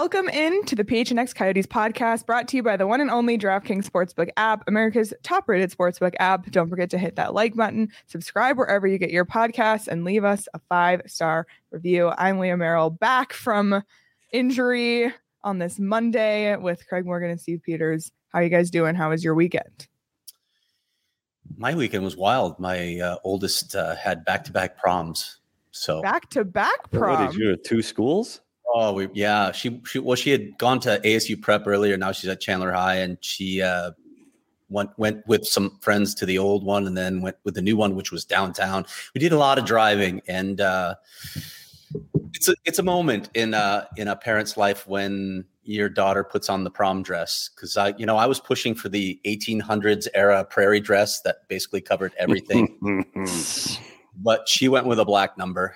Welcome in to the PHNX Coyotes podcast, brought to you by the one and only DraftKings Sportsbook app, America's top-rated sportsbook app. Don't forget to hit that like button, subscribe wherever you get your podcasts, and leave us a 5-star review. I'm Leah Merrill, back from injury on this Monday with Craig Morgan and Steve Peters. How are you guys doing? How was your weekend? My weekend was wild. My oldest had back-to-back proms. So back-to-back prom? What did you do? 2 schools? Oh, yeah. She had gone to ASU prep earlier. Now she's at Chandler High, and she went with some friends to the old one, and then went with the new one, which was downtown. We did a lot of driving, and it's a moment in a parent's life when your daughter puts on the prom dress. Because I was pushing for the 1800s era prairie dress that basically covered everything, but she went with a black number.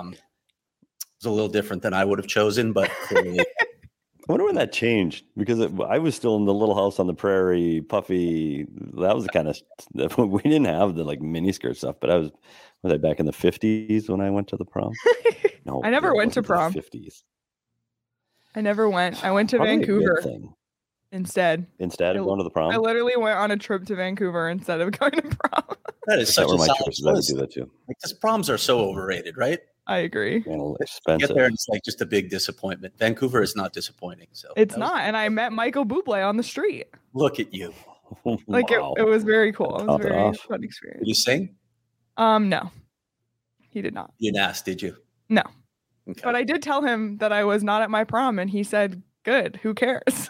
A little different than I would have chosen, but clearly. I wonder when that changed, because I was still in the little house on the prairie, puffy. That was the kind of we didn't have the like mini skirt stuff, but was I back in the 50s when I went to the prom? No, I never went to prom. 50s. I never went. I went to Probably Vancouver instead of going to the prom. I literally went on a trip to Vancouver instead of going to prom. That is such a my solid choices. I would do that too. Because proms are so overrated, right? I agree. And expensive. Get there and it's like just a big disappointment. Vancouver is not disappointing. So it's not. And I met Michael Bublé on the street. Look at you. Like Wow. it was very cool. It was a very off. fun experience. Did you sing? No, he did not. You didn't ask, did you? No. Okay. But I did tell him that I was not at my prom, and he said, good, who cares?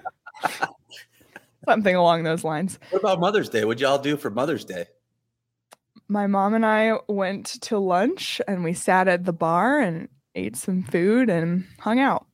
Something along those lines. What about Mother's Day? What'd y'all do for Mother's Day? My mom and I went to lunch, and we sat at the bar and ate some food and hung out.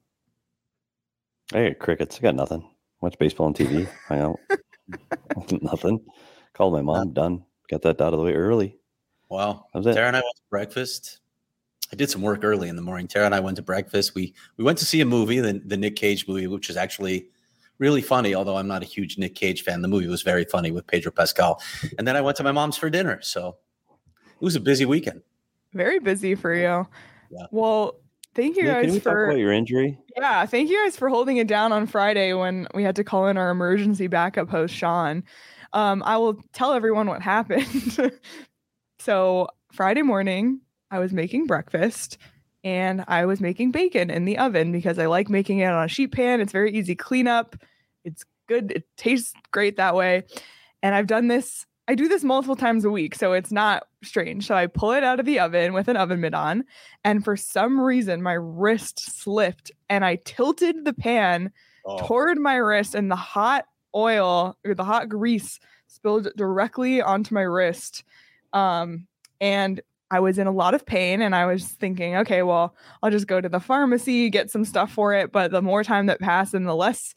I got crickets. I got nothing. Watch baseball on TV. Hang out. Nothing. Called my mom. Done. Got that out of the way early. Wow. That was it. Tara and I went to breakfast. I did some work early in the morning. Tara and I went to breakfast. We went to see a movie, the Nick Cage movie, which is actually really funny, although I'm not a huge Nick Cage fan. The movie was very funny with Pedro Pascal. And then I went to my mom's for dinner. So it was a busy weekend. Very busy for you. Yeah. Well, thank you guys Can we talk about your injury? Yeah, thank you guys for holding it down on Friday when we had to call in our emergency backup host, Sean. I will tell everyone what happened. So Friday morning, I was making breakfast and I was making bacon in the oven because I like making it on a sheet pan. It's very easy cleanup. It's good. It tastes great that way. And I do this multiple times a week, so it's not strange. So I pull it out of the oven with an oven mitt on, and for some reason, my wrist slipped, and I tilted the pan toward my wrist, and the hot oil or the hot grease spilled directly onto my wrist. And I was in a lot of pain, and I was thinking, okay, well, I'll just go to the pharmacy, get some stuff for it. But the more time that passed and the less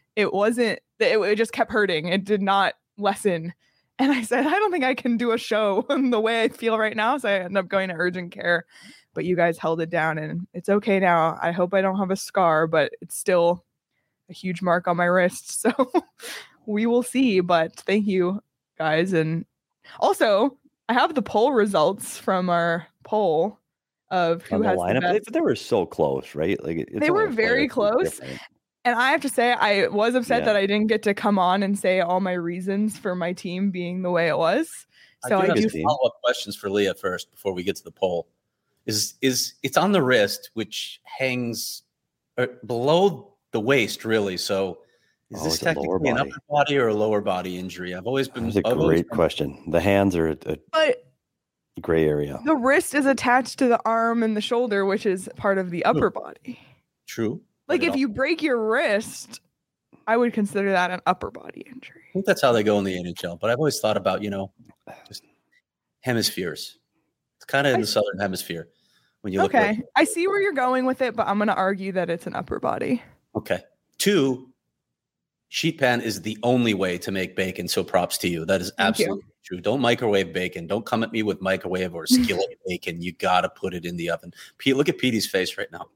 it just kept hurting. It did not lessen. And I said, I don't think I can do a show the way I feel right now. So I ended up going to urgent care, but you guys held it down and it's okay now. I hope I don't have a scar, but it's still a huge mark on my wrist. So we will see, but thank you guys. And also I have the poll results from our poll of who has the best. They were so close, right? Like they were very close. And I have to say, I was upset that I didn't get to come on and say all my reasons for my team being the way it was. So I do have follow-up questions for Leah first before we get to the poll. Is it's on the wrist, which hangs below the waist, really? So is this technically an upper body or a lower body injury? I've always been. That's a great question. The hands are a gray area. The wrist is attached to the arm and the shoulder, which is part of the upper body. True. Like if you break your wrist, I would consider that an upper body injury. I think that's how they go in the NHL. But I've always thought about, just hemispheres. It's kind of in the southern hemisphere when you look. Okay, I see where you're going with it, but I'm going to argue that it's an upper body. Okay. 2, sheet pan is the only way to make bacon. So props to you. That is absolutely true. Don't microwave bacon. Don't come at me with microwave or skillet bacon. You got to put it in the oven. Pete, look at Petey's face right now.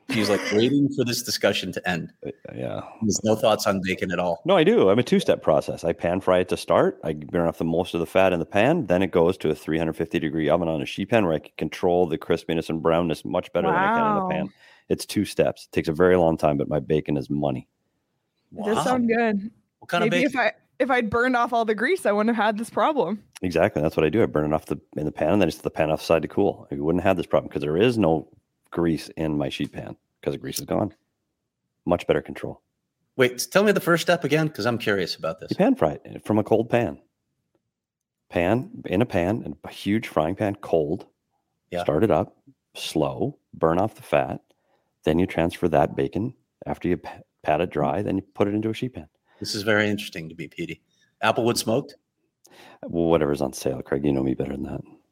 He's like waiting for this discussion to end. Yeah. There's no thoughts on bacon at all. No, I do. I'm a two-step process. I pan fry it to start. I burn off the most of the fat in the pan. Then it goes to a 350-degree oven on a sheet pan where I can control the crispiness and brownness much better than I can in the pan. It's 2 steps. It takes a very long time, but my bacon is money. Wow. It does sound good. What kind of bacon? If I'd burned off all the grease, I wouldn't have had this problem. Exactly. That's what I do. I burn it off in the pan, and then just the pan offside to cool. I wouldn't have this problem because there is no grease in my sheet pan because the grease is gone. Much better control. Wait, tell me the first step again because I'm curious about this. You pan fry it from a cold pan. In a huge frying pan, cold. Yeah. Start it up, slow, burn off the fat. Then you transfer that bacon after you pat it dry. Then you put it into a sheet pan. This is very interesting to be Petey. Applewood smoked? Well, whatever's on sale, Craig. You know me better than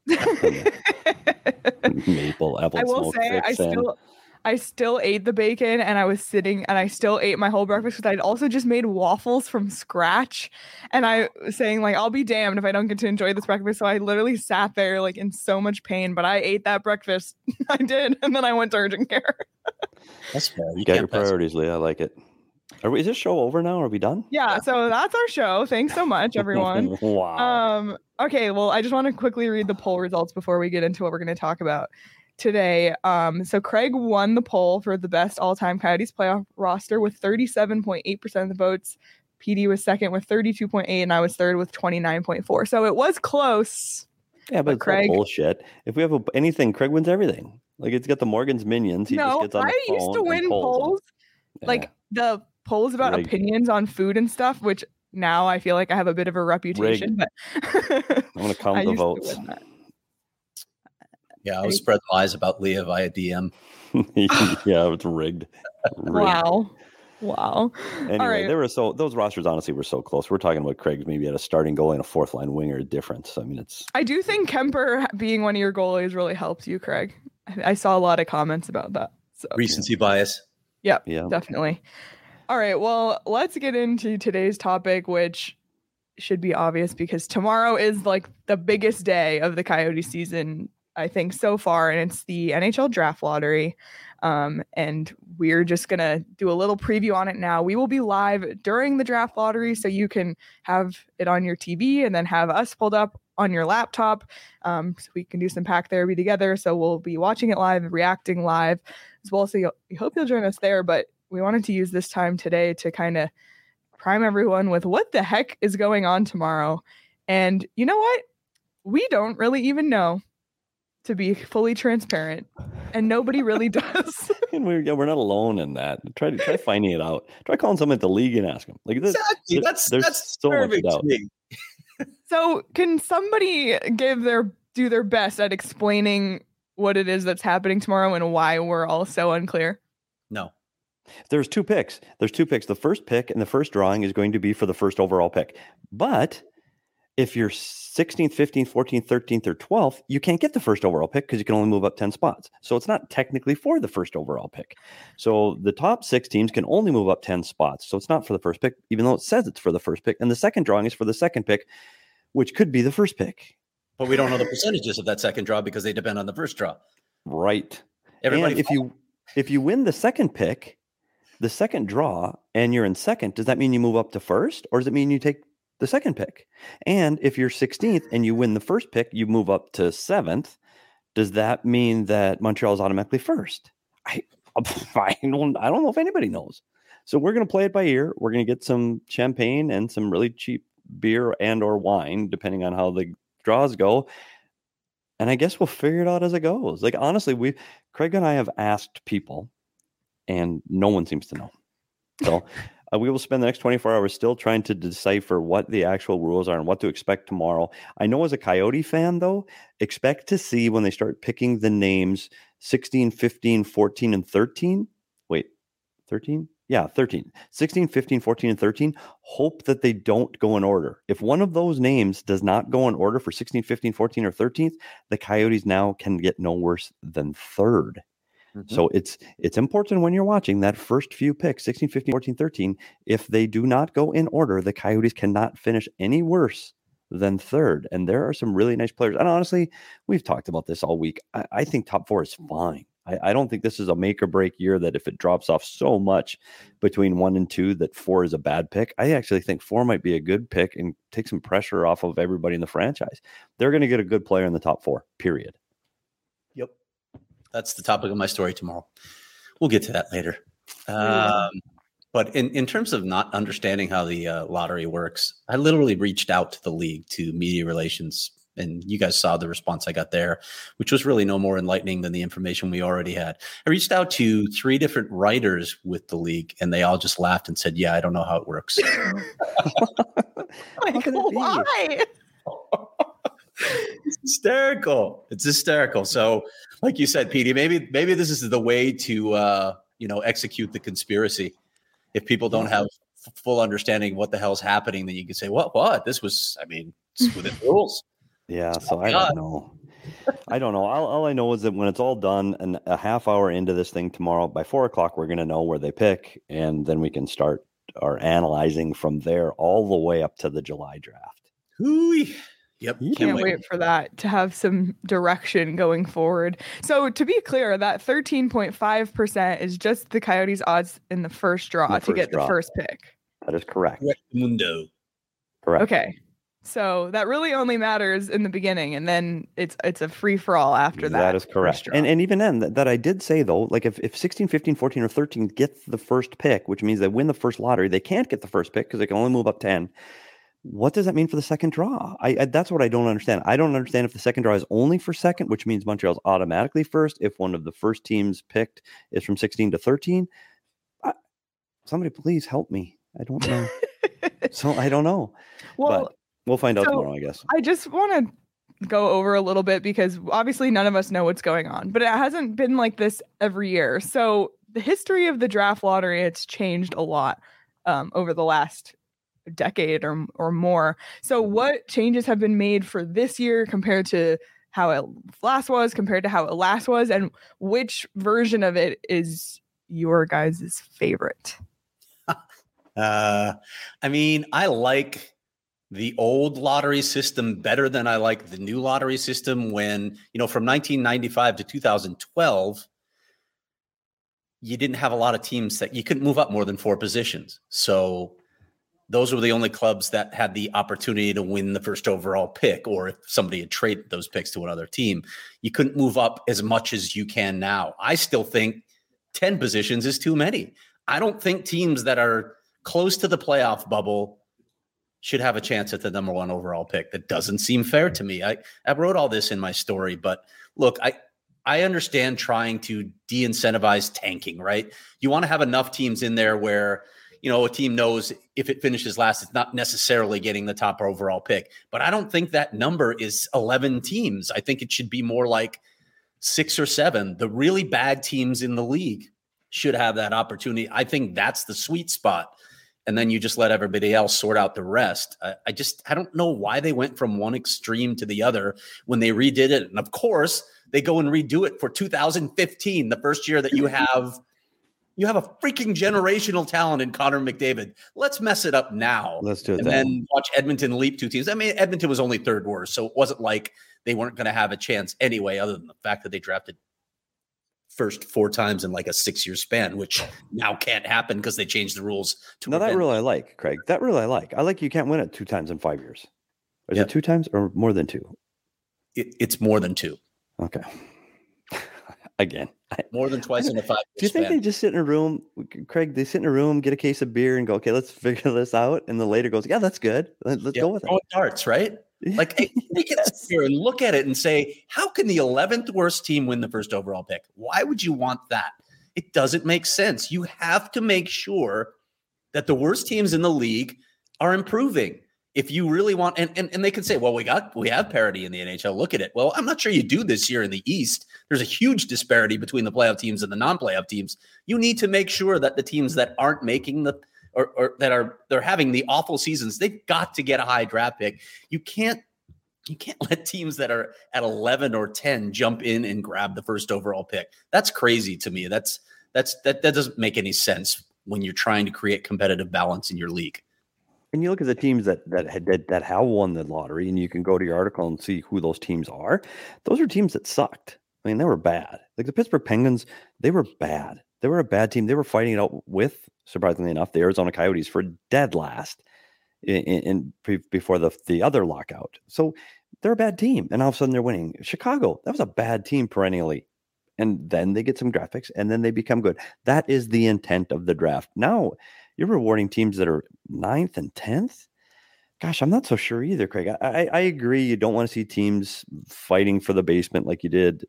that. Maple, apple. I will say, I still ate the bacon, and I was sitting, and I still ate my whole breakfast because I'd also just made waffles from scratch, and I was saying like, I'll be damned if I don't get to enjoy this breakfast. So I literally sat there like in so much pain, but I ate that breakfast. I did, and then I went to urgent care. That's fair. You got your priorities, Leah. I like it. Is this show over now? Are we done? Yeah, so that's our show. Thanks so much, everyone. Wow. Okay, well, I just want to quickly read the poll results before we get into what we're going to talk about today. So Craig won the poll for the best all-time Coyotes playoff roster with 37.8% of the votes. PD was second with 32.8%, and I was third with 29.4%. So it was close. Yeah, but Craig, bullshit. If we have anything, Craig wins everything. Like, it's got the Morgan's minions. He just gets on the phone. I used to win polls. Like the polls about opinions on food and stuff, which now I feel like I have a bit of a reputation. But I'm going to count the votes. Yeah, I was spreading lies about Leah via DM. Yeah, it's rigged. Wow. Anyway, all right. Those rosters honestly were so close. We're talking about Craig maybe at a starting goalie and a fourth line winger difference. I mean, I do think Kemper being one of your goalies really helps you, Craig. I saw a lot of comments about that. So. Recency bias. Yep, definitely. All right, well, let's get into today's topic, which should be obvious because tomorrow is like the biggest day of the Coyote season, I think, so far, and it's the NHL Draft Lottery. And we're just going to do a little preview on it now. We will be live during the Draft Lottery, so you can have it on your TV and then have us pulled up on your laptop. So we can do some pack therapy together. So we'll be watching it live, reacting live as well. So we hope you'll join us there, but we wanted to use this time today to kind of prime everyone with what the heck is going on tomorrow. And you know what? We don't really even know, to be fully transparent, and nobody really does. And we're not alone in that. Try finding it out. Try calling someone at the league and ask them. Like this, exactly. That's so much doubt. So can somebody do their best at explaining what it is that's happening tomorrow and why we're all so unclear? No. There's 2 picks. The first pick in the first drawing is going to be for the first overall pick. But if you're 16th, 15th, 14th, 13th, or 12th, you can't get the first overall pick because you can only move up 10 spots. So it's not technically for the first overall pick. So the top 6 teams can only move up 10 spots. So it's not for the first pick, even though it says it's for the first pick. And the second drawing is for the second pick, which could be the first pick. But we don't know the percentages of that second draw because they depend on the first draw. Right. And if you win the second pick, the second draw, and you're in second, does that mean you move up to first, or does it mean you take the second pick? And if you're 16th and you win the first pick, you move up to 7th. Does that mean that Montreal is automatically first? I don't know if anybody knows. So we're going to play it by ear. We're going to get some champagne and some really cheap beer and or wine, depending on how the draws go. And I guess we'll figure it out as it goes. Like, honestly, Craig and I have asked people, and no one seems to know. So we will spend the next 24 hours still trying to decipher what the actual rules are and what to expect tomorrow. I know as a Coyote fan, though, expect to see when they start picking the names 16, 15, 14, and 13. Wait, 13? Yeah, 13. 16, 15, 14, and 13. Hope that they don't go in order. If one of those names does not go in order for 16, 15, 14, or 13th, the Coyotes now can get no worse than third. Mm-hmm. So it's important when you're watching that first few picks, 16, 15, 14, 13, if they do not go in order, the Coyotes cannot finish any worse than third. And there are some really nice players. And honestly, we've talked about this all week. I think top 4 is fine. I don't think this is a make or break year that if it drops off so much between 1 and 2 that 4 is a bad pick. I actually think 4 might be a good pick and take some pressure off of everybody in the franchise. They're going to get a good player in the top 4, period. Yep. That's the topic of my story tomorrow. We'll get to that later. But in terms of not understanding how the lottery works, I literally reached out to the league, to media relations, and you guys saw the response I got there, which was really no more enlightening than the information we already had. I reached out to 3 different writers with the league, and they all just laughed and said, yeah, I don't know how it works. Like, why? It's hysterical. It's hysterical. So like you said, Petey, maybe this is the way to, execute the conspiracy. If people don't have full understanding what the hell's happening, then you can say, what? This was, it's within rules. Yeah. So I don't know. All I know is that when it's all done and a half hour into this thing tomorrow, by 4:00, we're going to know where they pick. And then we can start our analyzing from there all the way up to the July draft. Hooey. Yep. Can't wait for that to have some direction going forward. So to be clear, that 13.5% is just the Coyotes' odds in the first draw to get the first pick. That is correct. Mundo. Correct. Okay. So that really only matters in the beginning, and then it's a free-for-all after that. That is correct. And even then, that I did say, though, like if 16, 15, 14, or 13 gets the first pick, which means they win the first lottery, they can't get the first pick because they can only move up 10. What does that mean for the second draw? I that's what I don't understand. I don't understand if the second draw is only for second, which means Montreal's automatically first. If one of the first teams picked is from 16 to 13, somebody please help me. I don't know. So I don't know. Well, but we'll find out tomorrow, I guess. I just want to go over a little bit because obviously none of us know what's going on, but it hasn't been like this every year. So the history of the draft lottery, it's changed a lot over the last decade or more. So what changes have been made for this year compared to how it last was, and which version of it is your guys' favorite? I like the old lottery system better than I like the new lottery system when, from 1995 to 2012, you didn't have a lot of teams that you couldn't move up more than 4 positions. So those were the only clubs that had the opportunity to win the first overall pick, or if somebody had traded those picks to another team, you couldn't move up as much as you can now. I still think 10 positions is too many. I don't think teams that are close to the playoff bubble should have a chance at the number 1 overall pick. That doesn't seem fair to me. I wrote all this in my story, but look, I understand trying to de-incentivize tanking, right? You want to have enough teams in there where a team knows if it finishes last, it's not necessarily getting the top overall pick. But I don't think that number is 11 teams. I think it should be more like 6 or 7. The really bad teams in the league should have that opportunity. I think that's the sweet spot. And then you just let everybody else sort out the rest. I don't know why they went from one extreme to the other when they redid it. And of course, they go and redo it for 2015, the first year that you have a freaking generational talent in Connor McDavid. Let's mess it up now. Let's do it. And then watch Edmonton leap 2 teams. Edmonton was only 3rd worst, so it wasn't like they weren't going to have a chance anyway, other than the fact that they drafted first 4 times in like a 6-year span, which now can't happen because they changed the rules. That rule I like, Craig. That rule I like. I like you can't win it 2 times in 5 years. Is it 2 times or more than 2? It's more than 2. Okay. Again. More than twice in a 5-year Do you think they just sit in a room, Craig, they sit in a room, get a case of beer and go, okay, let's figure this out. And the later goes, yeah, that's good. Let's go with it. Darts, right? Like they can sit here and look at it and say, how can the 11th worst team win the first overall pick? Why would you want that? It doesn't make sense. You have to make sure that the worst teams in the league are improving. If you really want, and they can say, well, we have parity in the NHL. Look at it. Well, I'm not sure you do this year in the East. There's a huge disparity between the playoff teams and the non-playoff teams. You need to make sure that the teams that aren't making or that they're having the awful seasons, they've got to get a high draft pick. You can't let teams that are at 11 or 10 jump in and grab the first overall pick. That's crazy to me. That doesn't make any sense when you're trying to create competitive balance in your league. And you look at the teams that have won the lottery, and you can go to your article and see who those teams are. Those are teams that sucked. I mean, they were bad. Like the Pittsburgh Penguins, they were bad. They were a bad team. They were fighting it out with, surprisingly enough, the Arizona Coyotes for dead last before the other lockout. So they're a bad team, and all of a sudden they're winning. Chicago, that was a bad team perennially. And then they get some draft picks, and then they become good. That is the intent of the draft. Now, you're rewarding teams that are 9th and 10th. Gosh, I'm not so sure either, Craig. I agree. You don't want to see teams fighting for the basement like you did,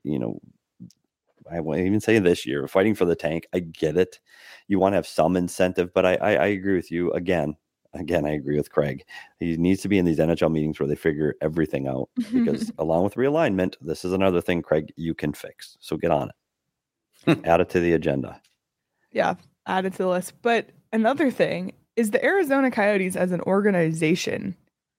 I won't even say this year, fighting for the tank. I get it. You want to have some incentive, but I agree with you. Again, I agree with Craig. He needs to be in these NHL meetings where they figure everything out, because along with realignment, this is another thing, Craig, you can fix. So get on it. Add it to the agenda. Yeah, add it to the list. But another thing is the Arizona Coyotes as an organization.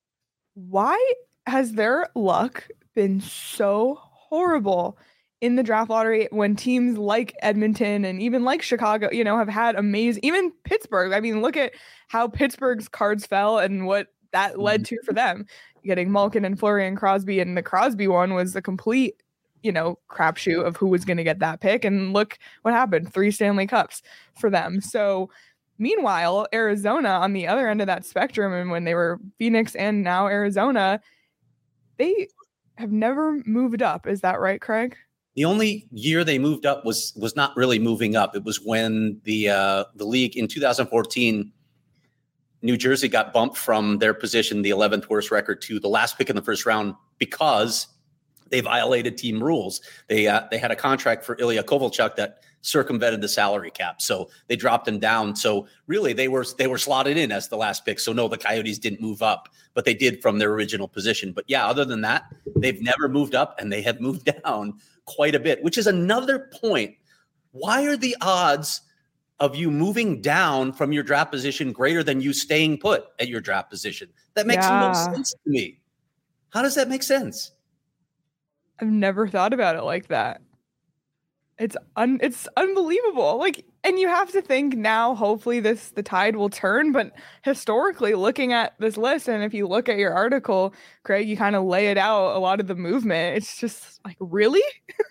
Why has their luck been so horrible in the draft lottery when teams like Edmonton and even like Chicago, have had amazing, even Pittsburgh. I mean, look at how Pittsburgh's cards fell and what that led to for them, getting Malkin and Fleury and Crosby. And the Crosby one was a complete, crapshoot of who was going to get that pick. And look what happened, 3 Stanley Cups for them. So meanwhile, Arizona on the other end of that spectrum, and when they were Phoenix and now Arizona, they have never moved up. Is that right, Craig? The only year they moved up was not really moving up. It was when the league in 2014, New Jersey got bumped from their position, the 11th worst record, to the last pick in the first round because they violated team rules. They had a contract for Ilya Kovalchuk that circumvented the salary cap, so they dropped him down. So really, they were slotted in as the last pick. So no, the Coyotes didn't move up, but they did from their original position. But yeah, other than that, they've never moved up, and they have moved down quite a bit, which is another point. Why are the odds of you moving down from your draft position greater than you staying put at your draft position? That makes no sense to me. How does that make sense? I've never thought about it like that. It's unbelievable. Like, and you have to think now, hopefully the tide will turn, but historically looking at this list, and if you look at your article, Craig, you kind of lay it out, a lot of the movement. It's just like, really?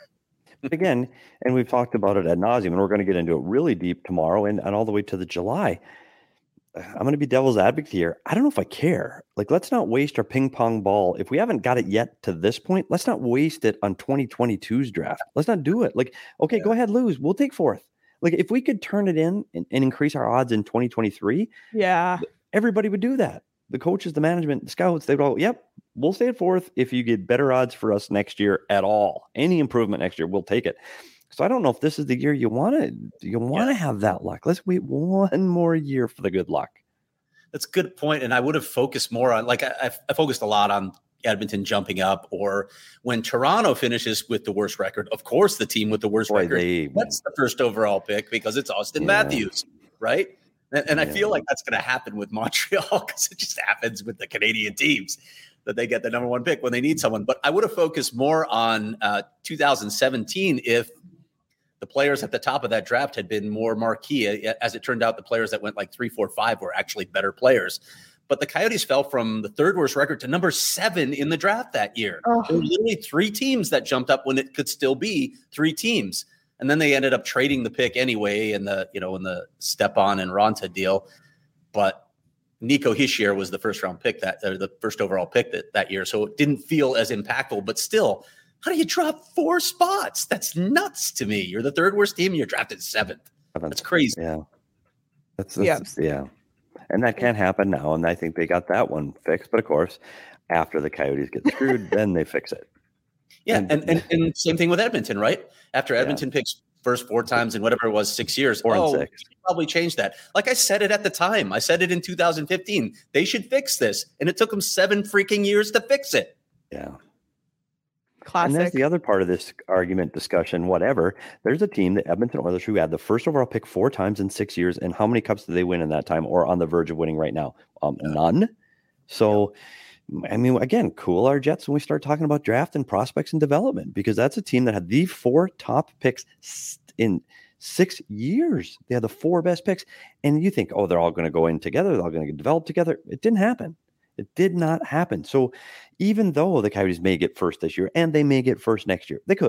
Again, and we've talked about it ad nauseum, and we're going to get into it really deep tomorrow and all the way to the July. I'm going to be devil's advocate here. I don't know if I care. Like, let's not waste our ping pong ball. If we haven't got it yet to this point, let's not waste it on 2022's draft. Let's not do it. Like, okay, Go ahead, lose. We'll take 4th. Like, if we could turn it in and increase our odds in 2023, everybody would do that. The coaches, the management, the scouts, they would all, yep, we'll stay at 4th if you get better odds for us next year at all. Any improvement next year, we'll take it. So I don't know if this is the year you want to have that luck. Let's wait one more year for the good luck. That's a good point. And I would have focused more on, like, I focused a lot on Edmonton jumping up, or when Toronto finishes with the worst record, of course, the team with the worst record, that's the first overall pick because it's Austin Matthews, right? And I feel like that's going to happen with Montreal because it just happens with the Canadian teams that they get the number 1 pick when they need someone. But I would have focused more on 2017 if the players at the top of that draft had been more marquee. As it turned out, the players that went like 3, 4, 5 were actually better players. But the Coyotes fell from the 3rd worst record to number 7 in the draft that year. There were literally 3 teams that jumped up when it could still be 3 teams. And then they ended up trading the pick anyway in the Stepan and Ronta deal. But Nico Hischier was the first overall pick that year. So it didn't feel as impactful, but still, how do you drop 4 spots? That's nuts to me. You're the 3rd worst team. You're drafted 7th. That's crazy. Yeah. That's yeah. And that can't happen now. And I think they got that one fixed. But of course, after the Coyotes get screwed, then they fix it. Yeah. And same thing with Edmonton, right? After Edmonton picks first 4 times in whatever it was, 6 years. 4 and 6. Probably change that. Like I said it at the time. I said it in 2015. They should fix this. And it took them 7 freaking years to fix it. Yeah. Classic. And that's the other part of this argument, discussion, whatever. There's a team, the Edmonton Oilers, who had the first overall pick 4 times in 6 years. And how many cups did they win in that time, or on the verge of winning right now? None. So, I mean, again, cool our jets when we start talking about draft and prospects and development, because that's a team that had the 4 top picks in 6 years. They had the 4 best picks. And you think, oh, they're all going to go in together. They're all going to get developed together. It didn't happen. It did not happen. So even though the Coyotes may get first this year and they may get first next year, they could.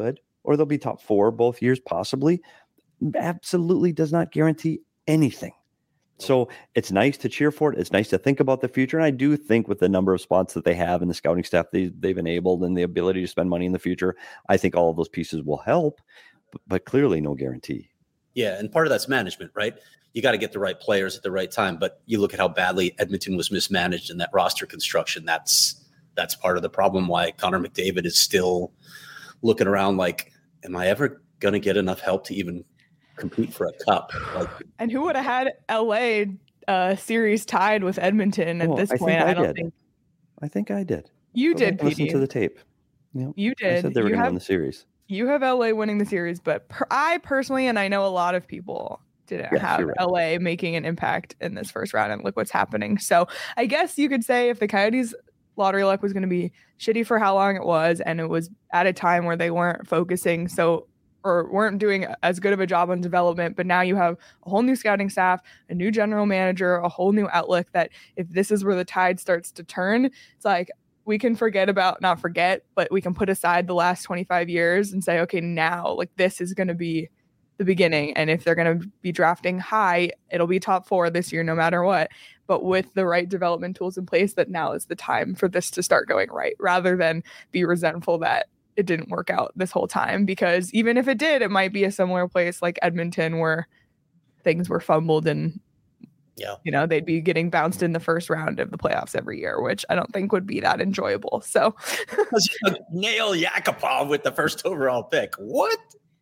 or they'll be top 4 both years, possibly. Absolutely does not guarantee anything. So it's nice to cheer for it. It's nice to think about the future. And I do think with the number of spots that they have and the scouting staff they've enabled and the ability to spend money in the future, I think all of those pieces will help, but clearly no guarantee. Yeah, and part of that's management, right? You got to get the right players at the right time. But you look at how badly Edmonton was mismanaged in that roster construction. That's part of the problem why Connor McDavid is still looking around like, am I ever going to get enough help to even compete for a cup? Like, and who would have had LA series tied with Edmonton at this point? I think I did. You did, PD. Listen to the tape. You did. I said they were going to win the series. You have LA winning the series, but I personally, and I know a lot of people didn't have LA making an impact in this first round, and look what's happening. So I guess you could say if the Coyotes lottery luck was going to be shitty for how long it was, and it was at a time where they weren't focusing or weren't doing as good of a job on development, but now you have a whole new scouting staff, a new general manager, a whole new outlook, that if this is where the tide starts to turn, it's like we can not forget, but we can put aside the last 25 years and say, okay, now like this is going to be the beginning. And if they're going to be drafting high, it'll be top 4 this year, no matter what. But with the right development tools in place, that now is the time for this to start going right, rather than be resentful that it didn't work out this whole time. Because even if it did, it might be a similar place like Edmonton where things were fumbled and they'd be getting bounced in the first round of the playoffs every year, which I don't think would be that enjoyable. So nail Yakupov with the first overall pick. What?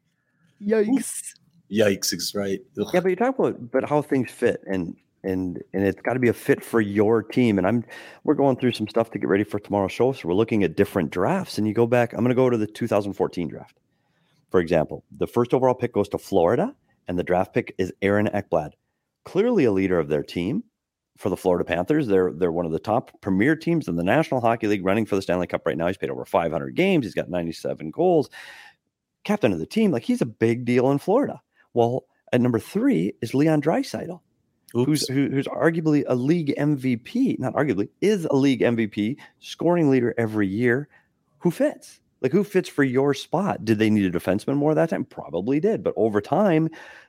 Yikes is right. Ugh. Yeah, but you're talking about how things fit, and it's got to be a fit for your team. And we're going through some stuff to get ready for tomorrow's show, so we're looking at different drafts. And you go back, I'm going to go to the 2014 draft, for example. The first overall pick goes to Florida, and the draft pick is Aaron Ekblad, clearly a leader of their team. For the Florida Panthers, they're one of the top premier teams in the National Hockey League, running for the Stanley Cup right now. He's played over 500 games. He's got 97 goals. Captain of the team, like he's a big deal in Florida. Well, at number 3 is Leon Draisaitl, who's arguably a league MVP, not arguably, is a league MVP, scoring leader every year. Who fits? Like, who fits for your spot? Did they need a defenseman more that time? Probably did. But over time,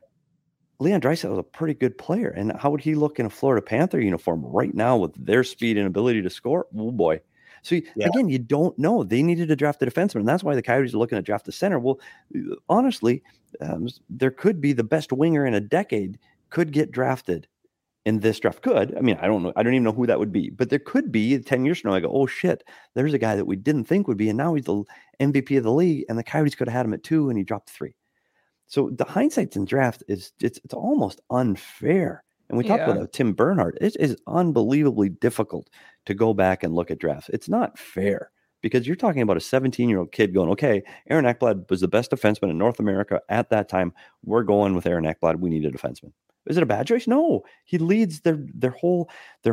Leon Draisaitl was a pretty good player. And how would he look in a Florida Panther uniform right now with their speed and ability to score? Oh, boy. So, again, you don't know. They needed to draft a defenseman, and that's why the Coyotes are looking to draft a center. Well, honestly, there could be the best winger in a decade could get drafted in this draft. Could. I mean, I don't know. I don't even know who that would be. But there could be 10 years from now, I go, oh, shit, there's a guy that we didn't think would be, and now he's the MVP of the league, and the Coyotes could have had him at 2, and he dropped 3. So the hindsight in draft it's almost unfair. And we talked about Tim Bernhardt. It is unbelievably difficult to go back and look at drafts. It's not fair because you're talking about a 17-year-old kid going, okay, Aaron Ekblad was the best defenseman in North America at that time. We're going with Aaron Ekblad. We need a defenseman. Is it a bad choice? No. He leads their whole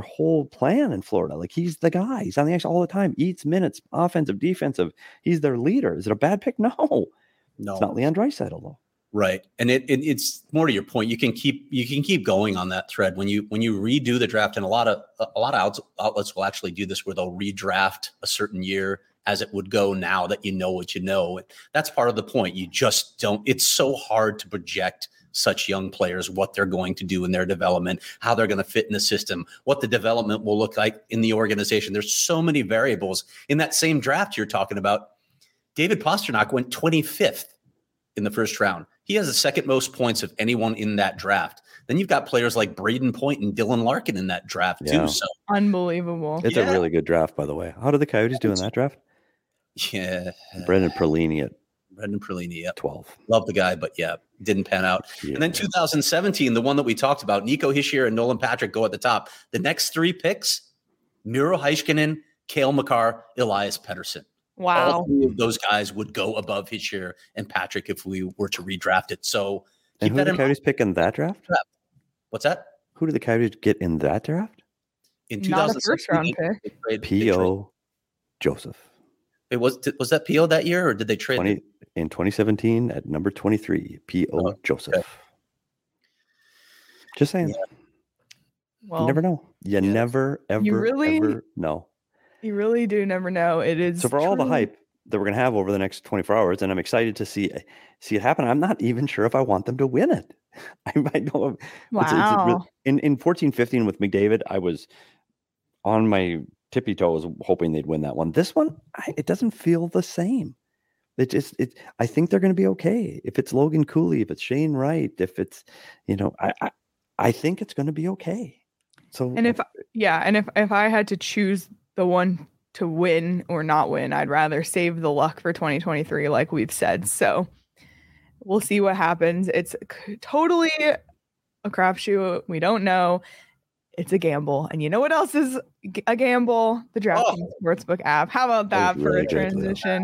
plan in Florida. Like, he's the guy. He's on the ice all the time. Eats minutes, offensive, defensive. He's their leader. Is it a bad pick? No. It's not Leon Draisaitl, though. Right. And it's more to your point. You can keep going on that thread when you redo the draft, and a lot of outlets will actually do this where they'll redraft a certain year as it would go now that you know what you know. That's part of the point. You just don't. It's so hard to project such young players, what they're going to do in their development, how they're going to fit in the system, what the development will look like in the organization. There's so many variables. In that same draft you're talking about, David Pastrnak went 25th in the first round. He has the second most points of anyone in that draft. Then you've got players like Braden Point and Dylan Larkin in that draft too. So unbelievable. It's a really good draft, by the way. How did the Coyotes do in that draft? Yeah. Brendan Perlini at 12. Love the guy, but didn't pan out. Yeah. And then 2017, the one that we talked about, Nico Hischier and Nolan Patrick go at the top. The next 3 picks, Miro Heiskanen, Cale Makar, Elias Pettersson. Wow. All 3 of those guys would go above Hischier and Patrick if we were to redraft it. So and who did the Coyotes pick in that draft? What's that? Who did the Coyotes get in that draft? In 2017, P.O. Joseph. Was that P.O. that year, or did they trade? In 2017 at number 23, P.O. Joseph. Okay. Just saying. Yeah. Well, you never know. You never, ever, ever know. You really do never know. It is so for all the hype. that we're going to have over the next 24 hours, and I'm excited to see it happen. I'm not even sure if I want them to win it. I know. Wow. In 14-15 with McDavid, I was on my tippy toes hoping they'd win that one. This one, it doesn't feel the same. I think they're going to be okay. If it's Logan Cooley, if it's Shane Wright, if it's, I think it's going to be okay. So, and if I had to choose the one to win or not win, I'd rather save the luck for 2023, like we've said. So we'll see what happens. It's totally a crapshoot. We don't know. It's a gamble. And you know what else is a gamble? The DraftKings Sportsbook app. How about that for a transition?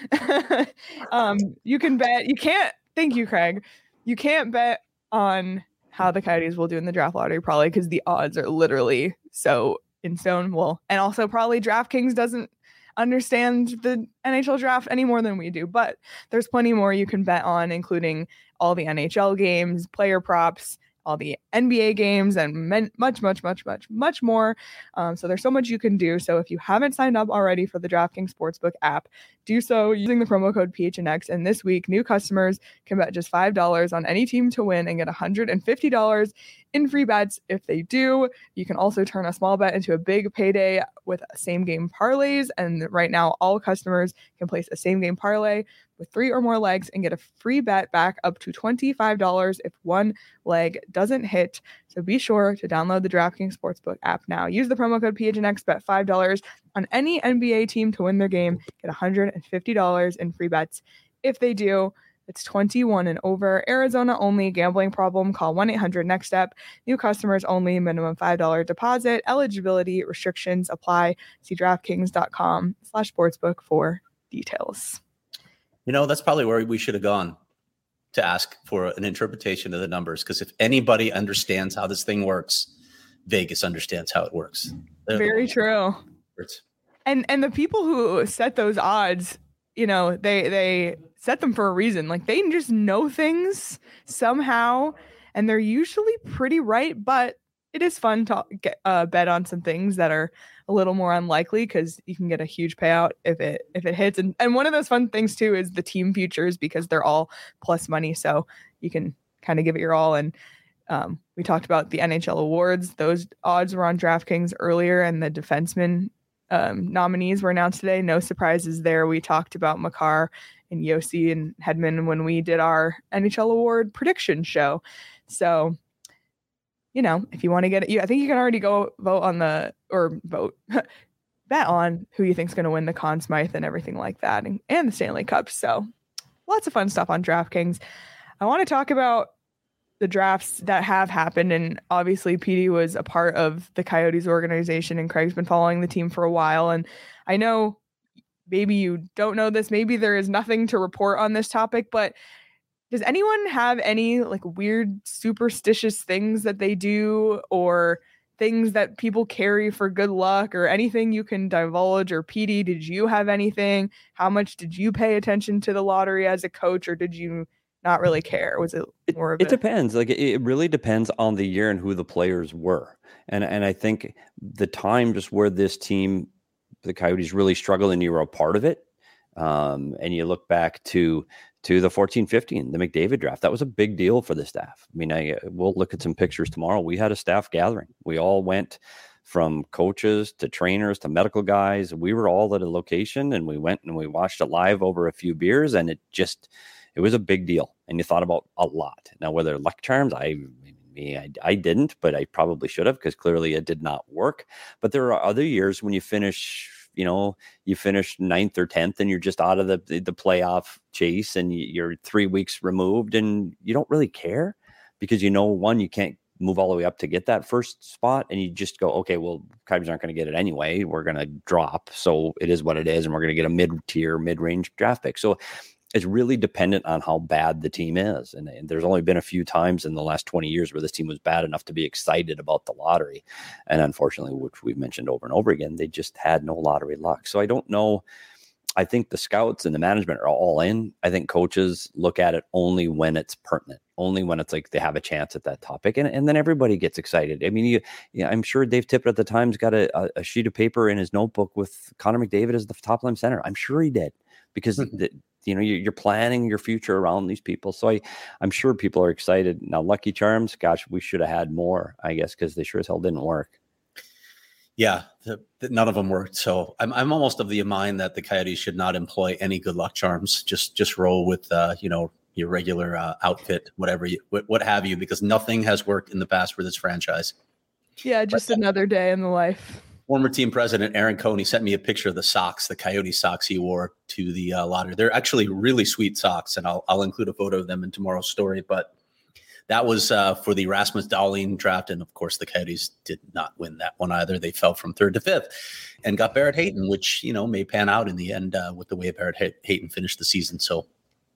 You can bet. You can't. Thank you, Craig. You can't bet on how the Coyotes will do in the draft lottery, probably because the odds are literally so in stone. Well, and also probably DraftKings doesn't understand the NHL draft any more than we do. But there's plenty more you can bet on, including all the NHL games, player props, all the NBA games, and much more. So there's so much you can do. So if you haven't signed up already for the DraftKings Sportsbook app, do so using the promo code PHNX. And this week, new customers can bet just $5 on any team to win and get $150 in free bets if they do. You can also turn a small bet into a big payday with same game parlays. And right now, all customers can place a same game parlay with 3 or more legs and get a free bet back up to $25 if one leg doesn't hit. So be sure to download the DraftKings Sportsbook app now. Use the promo code PHNX, bet $5 on any NBA team to win their game. Get $150 in free bets if they do. It's 21 and over. Arizona only. Gambling problem? Call 1-800-NEXT-STEP. New customers only. Minimum $5 deposit. Eligibility restrictions apply. See DraftKings.com/sportsbook for details. That's probably where we should have gone to ask for an interpretation of the numbers. Because if anybody understands how this thing works, Vegas understands how it works. Very true. And the people who set those odds, they set them for a reason. Like, they just know things somehow, and they're usually pretty right. But it is fun to get bet on some things that are a little more unlikely, because you can get a huge payout if it hits. And one of those fun things too is the team futures, because they're all plus money, so you can kind of give it your all. And we talked about the NHL awards; those odds were on DraftKings earlier, and the defenseman nominees were announced today. No surprises there. We talked about Makar and Yossi and Hedman when we did our NHL award prediction show. So, if you want to get it, I think you can already go bet on who you think is going to win the Conn Smythe and everything like that, and the Stanley Cup. So lots of fun stuff on DraftKings. I want to talk about the drafts that have happened. And obviously PD was a part of the Coyotes organization, and Craig's been following the team for a while. And I know maybe you don't know this, maybe there is nothing to report on this topic, but does anyone have any weird superstitious things that they do, or things that people carry for good luck, or anything you can divulge? Or PD, did you have anything? How much did you pay attention to the lottery as a coach, or did you not really care? Was it more of it depends. It really depends on the year and who the players were. And I think the time just where this team, the Coyotes, really struggled, and you were a part of it. And you look back to the 14-15, the McDavid draft. That was a big deal for the staff. I mean, we'll look at some pictures tomorrow. We had a staff gathering. We all went, from coaches to trainers to medical guys. We were all at a location, and we went and we watched it live over a few beers, and it was a big deal. And you thought about a lot. Now, whether luck charms, I didn't, but I probably should have, because clearly it did not work. But there are other years when you finish 9th or 10th, and you're just out of the playoff chase, and you're 3 weeks removed, and you don't really care, because one, you can't move all the way up to get that first spot, and you just go, okay, well, Coyotes aren't going to get it anyway. We're going to drop, so it is what it is, and we're going to get a mid-tier, mid-range draft pick. So it's really dependent on how bad the team is. And there's only been a few times in the last 20 years where this team was bad enough to be excited about the lottery. And unfortunately, which we've mentioned over and over again, they just had no lottery luck. So I don't know I think the scouts and the management are all in. I think coaches look at it only when it's pertinent, only when it's like they have a chance at that topic. And then everybody gets excited. I mean, I'm sure Dave Tippett at the Times got a sheet of paper in his notebook with Connor McDavid as the top line center. I'm sure he did, because you're planning your future around these people. So I'm sure people are excited. Now, Lucky Charms, gosh, we should have had more, I guess, because they sure as hell didn't work. Yeah, none of them worked. So I'm almost of the mind that the Coyotes should not employ any good luck charms. Just roll with your regular outfit, what have you, because nothing has worked in the past for this franchise. Yeah, just another day in the life. Former team president Aaron Coney sent me a picture of the socks, the Coyote socks he wore to the lottery. They're actually really sweet socks, and I'll include a photo of them in tomorrow's story. But that was for the Rasmus Dahlin draft. And of course, the Coyotes did not win that one either. They fell from 3rd to 5th and got Barrett Hayton, which, may pan out in the end with the way Barrett Hayton finished the season. So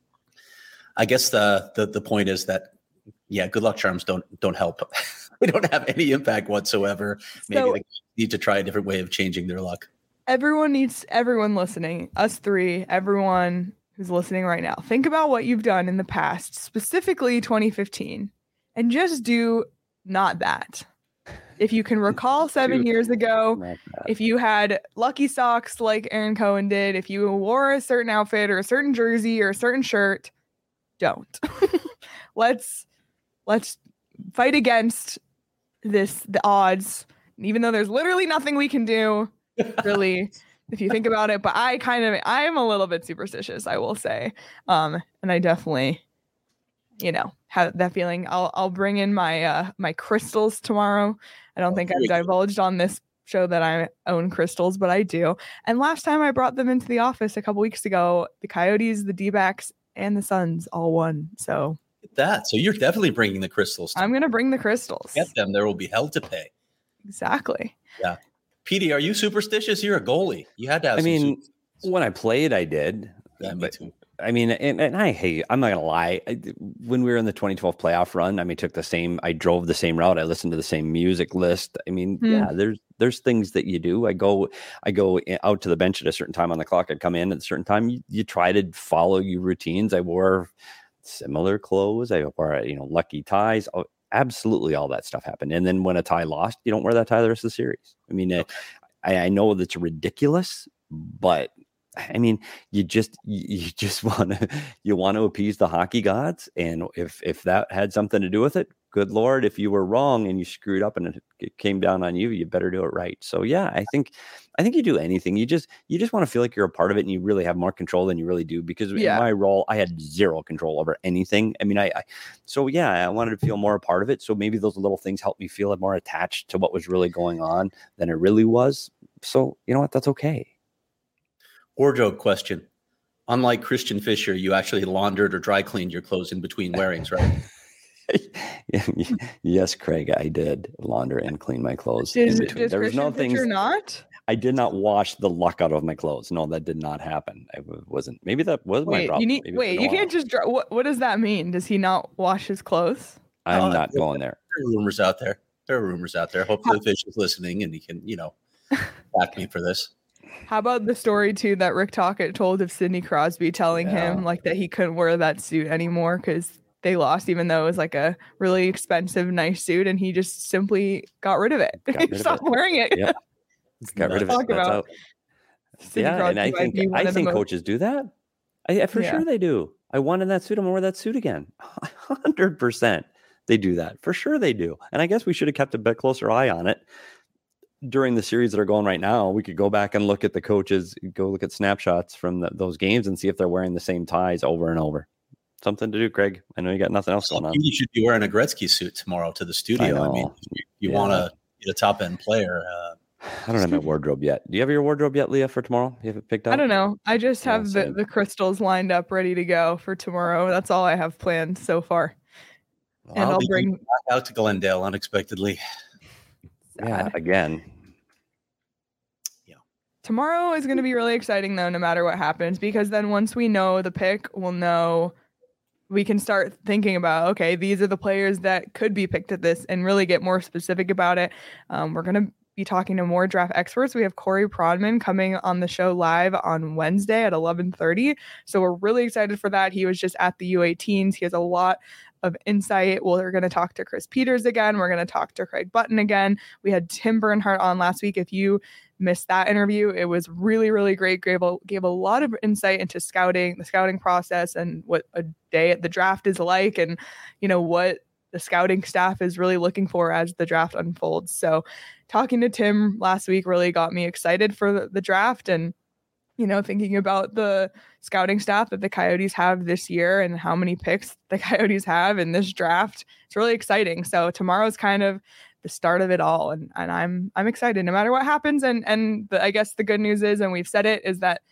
I guess the point is that, good luck charms don't help. They don't have any impact whatsoever. Maybe they need to try a different way of changing their luck. Everyone listening, us three, everyone who's listening right now, think about what you've done in the past, specifically 2015, and just do not that. If you can recall 7 years ago, if you had lucky socks like Aaron Cohen did, if you wore a certain outfit or a certain jersey or a certain shirt, don't. Let's fight against the odds, even though there's literally nothing we can do, really. If you think about it, but I am a little bit superstitious, I will say. And I definitely, have that feeling. I'll bring in my my crystals tomorrow. I don't think I've divulged on this show that I own crystals, but I do. And last time I brought them into the office a couple weeks ago, the Coyotes, the D-backs, and the Suns all won. So you're definitely bringing the crystals. I'm going to bring the crystals. Get them. There will be hell to pay. Exactly. Yeah. Petey, are you superstitious? You're a goalie. You had to have when I played, I did. Yeah, me too. I mean, and I'm not going to lie. When we were in the 2012 playoff run, I drove the same route. I listened to the same music list. I mean, there's things that you do. I go out to the bench at a certain time on the clock. I'd come in at a certain time. You try to follow your routines. I wore similar clothes. I wore, lucky ties. Absolutely, all that stuff happened. And then when a tie lost, you don't wear that tie the rest of the series. I mean, I know that's ridiculous, but I mean, you just want to appease the hockey gods, and if that had something to do with it, good Lord, if you were wrong and you screwed up and it came down on you, you better do it right. So yeah, I think you do anything. You just want to feel like you're a part of it, and you really have more control than you really do, because in my role, I had zero control over anything. I mean, I wanted to feel more a part of it. So maybe those little things helped me feel more attached to what was really going on than it really was. So you know what? That's okay. Wardrobe question. Unlike Christian Fischer, you actually laundered or dry cleaned your clothes in between wearings, right? Yes, Craig, I did launder and clean my clothes in between. There was no things. Not? I did not wash the luck out of my clothes. No, that did not happen. I wasn't. Maybe that was my problem. You can't just. What does that mean? Does he not wash his clothes? I'm not going there. There are rumors out there. Hopefully, Fish is listening and he can, back me for this. How about the story too that Rick Tocchet told of Sidney Crosby telling him that he couldn't wear that suit anymore because they lost, even though it was like a really expensive, nice suit, and he just simply got rid of it. He stopped wearing it. Yep. Got rid of it. That's out. Yeah, and I think coaches do that. For sure they do. I wanted that suit. I'm gonna wear that suit again. 100%. They do that. For sure they do. And I guess we should have kept a bit closer eye on it. During the series that are going right now, we could go back and look at the coaches, go look at snapshots from those games and see if they're wearing the same ties over and over. Something to do, Craig. I know you got nothing else going on. You should be wearing a Gretzky suit tomorrow to the studio. I mean, you want to get a top end player. I don't have my wardrobe yet. Do you have your wardrobe yet, Leah, for tomorrow? You have it picked out? I don't know. I just have the crystals lined up, ready to go for tomorrow. That's all I have planned so far. Well, and I'll bring back out to Glendale unexpectedly. Yeah, again. Yeah. Tomorrow is going to be really exciting, though, no matter what happens, because then once we know the pick, we'll know we can start thinking about, okay, these are the players that could be picked at this and really get more specific about it. We're going to be talking to more draft experts. We have Corey Prodman coming on the show live on Wednesday at 11:30. So we're really excited for that. He was just at the U18s. He has a lot of insight. We're going to talk to Chris Peters again. We're going to talk to Craig Button again. We had Tim Bernhardt on last week. If you missed that interview, it was really, really great. Gave a lot of insight into scouting, the scouting process, and what a day at the draft is like, and what the scouting staff is really looking for as the draft unfolds. So talking to Tim last week really got me excited for the draft, and thinking about the scouting staff that the Coyotes have this year and how many picks the Coyotes have in this draft. It's really exciting. So tomorrow's kind of the start of it all. And I'm excited no matter what happens. And I guess the good news is, and we've said it, is that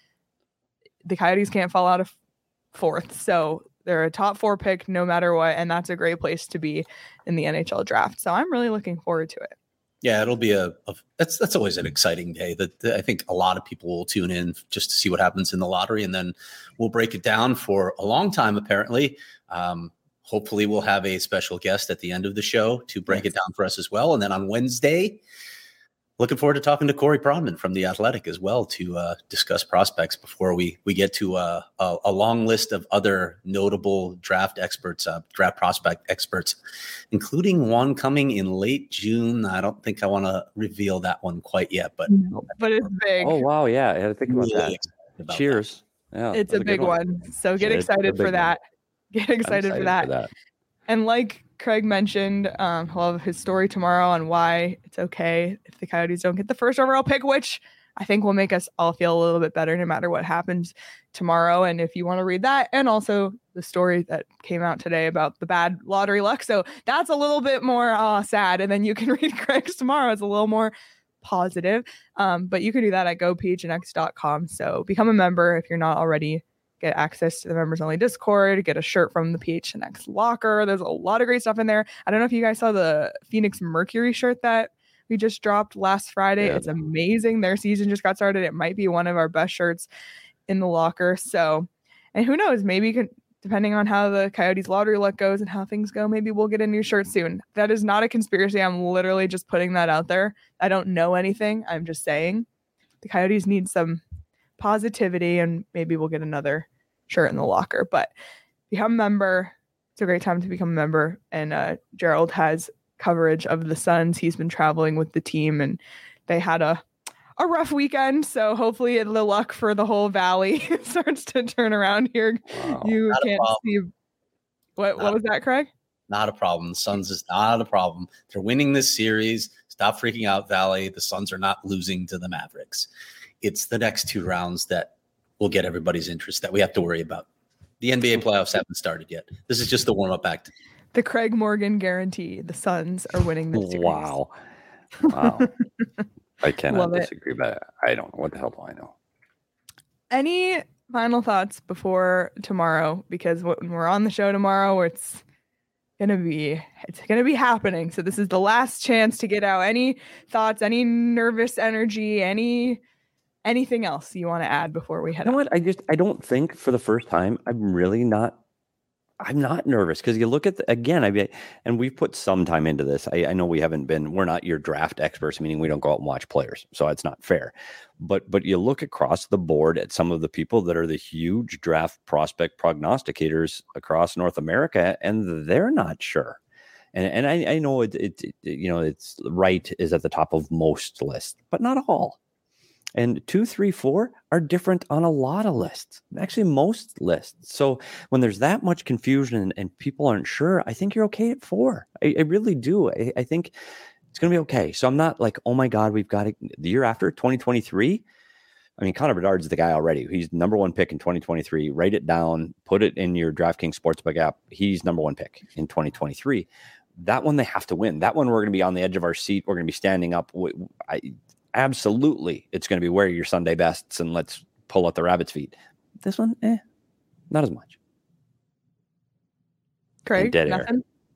the Coyotes can't fall out of fourth. So they're a top 4 pick no matter what. And that's a great place to be in the NHL draft. So I'm really looking forward to it. Yeah, it'll be that's always an exciting day that I think a lot of people will tune in just to see what happens in the lottery, and then we'll break it down for a long time, apparently. Hopefully we'll have a special guest at the end of the show to break it down for us as well. And then on Wednesday, looking forward to talking to Corey Prodman from The Athletic as well to discuss prospects before we get to a long list of other notable draft experts, draft prospect experts, including one coming in late June. I don't think I want to reveal that one quite yet, but it's big. Oh, wow. Yeah. I had to think about really that. Cheers. Yeah, it's a big one. So get excited for that. Get excited for that. And like Craig mentioned, he'll have his story tomorrow on why it's okay if the Coyotes don't get the first overall pick, which I think will make us all feel a little bit better no matter what happens tomorrow. And if you want to read that, and also the story that came out today about the bad lottery luck, so that's a little bit more sad. And then you can read Craig's tomorrow. It's a little more positive. But you can do that at gophnx.com. So become a member if you're not already. Get access to the members only Discord, get a shirt from the PHNX locker. There's a lot of great stuff in there. I don't know if you guys saw the Phoenix Mercury shirt that we just dropped last Friday. Yeah. It's amazing. Their season just got started. It might be one of our best shirts in the locker. So, and who knows, maybe depending on how the Coyotes lottery luck goes and how things go, maybe we'll get a new shirt soon. That is not a conspiracy. I'm literally just putting that out there. I don't know anything. I'm just saying the Coyotes need some positivity, and maybe we'll get another shirt in the locker. But become a member. It's a great time to become a member. And Gerald has coverage of the Suns. He's been traveling with the team, and they had a rough weekend. So hopefully the luck for the whole valley starts to turn around here. Wow. You can't see what was that, Craig? Not a problem. The Suns is not a problem. They're winning this series. Stop freaking out, Valley. The Suns are not losing to the Mavericks. It's the next 2 rounds that will get everybody's interest that we have to worry about. The NBA playoffs haven't started yet. This is just the warm-up act. The Craig Morgan guarantee. The Suns are winning this series. Wow. I cannot disagree, but I don't know. What the hell do I know? Any final thoughts before tomorrow? Because when we're on the show tomorrow, it's gonna be happening. So this is the last chance to get out any thoughts, any nervous energy, anything else you want to add before we head out? You know what? I don't think for the first time I'm not nervous, because you look at and we've put some time into this. I know we're not your draft experts, meaning we don't go out and watch players, so it's not fair. But you look across the board at some of the people that are the huge draft prospect prognosticators across North America, and they're not sure. And I know it's right is at the top of most lists, but not all. And 2, 3, 4 are different on a lot of lists, actually most lists. So when there's that much confusion and people aren't sure, I think you're okay at 4. I really do. I think it's going to be okay. So I'm not like, oh my God, we've got it the year after 2023. I mean, Connor Bedard's the guy already. He's number 1 pick in 2023. Write it down, put it in your DraftKings Sportsbook app. He's number 1 pick in 2023. That one they have to win. That one we're going to be on the edge of our seat. We're going to be standing up. Absolutely, it's going to be wear your Sunday bests and let's pull out the rabbit's feet. This one, not as much. Craig, nothing?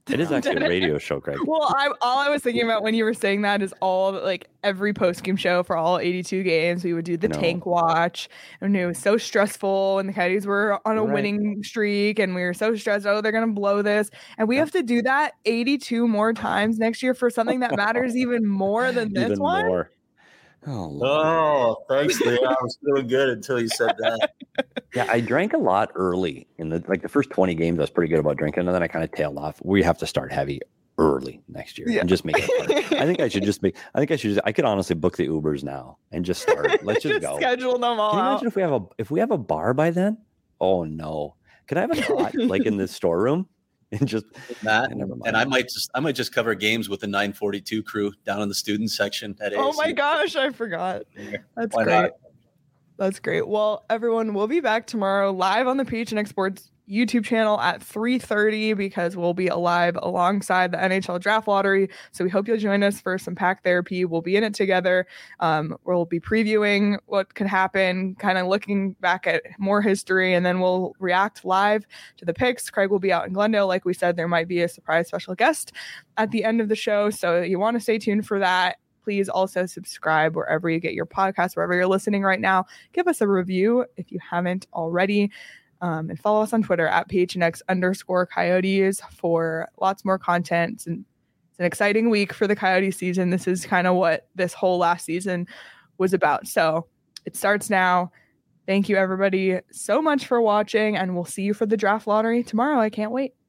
It is actually a radio show, Craig. Well, all I was thinking about when you were saying that is every post-game show for all 82 games. We would do the tank watch, and it was so stressful, and the Coyotes were on a winning streak, and we were so stressed. Oh, they're gonna blow this, and we have to do that 82 more times next year for something that matters even more than this one. More. Oh, thanks, Lee. I was feeling good until you said that. Yeah, I drank a lot early in the first 20 games. I was pretty good about drinking, and then I kind of tailed off. We have to start heavy early next year and just make it hard. I could honestly book the Ubers now and just start. Let's just go. Schedule them all. Can you imagine if we have a bar by then? Oh no! Could I have a cot like in the storeroom? And just that, and I might just cover games with the 942 crew down in the student section at ASU. Oh my gosh, I forgot. That's great. That's great. Well, everyone, we'll be back tomorrow live on the PHNX Sports YouTube channel at 3:30 because we'll be alive alongside the NHL Draft Lottery. So we hope you'll join us for some pack therapy. We'll be in it together. We'll be previewing what could happen, kind of looking back at more history, and then we'll react live to the picks. Craig will be out in Glendale. Like we said, there might be a surprise special guest at the end of the show. So you want to stay tuned for that. Please also subscribe wherever you get your podcast, wherever you're listening right now. Give us a review if you haven't already. And follow us on Twitter at PHNX_Coyotes for lots more content. It's an exciting week for the Coyote season. This is kind of what this whole last season was about. So it starts now. Thank you, everybody, so much for watching, and we'll see you for the Draft Lottery tomorrow. I can't wait.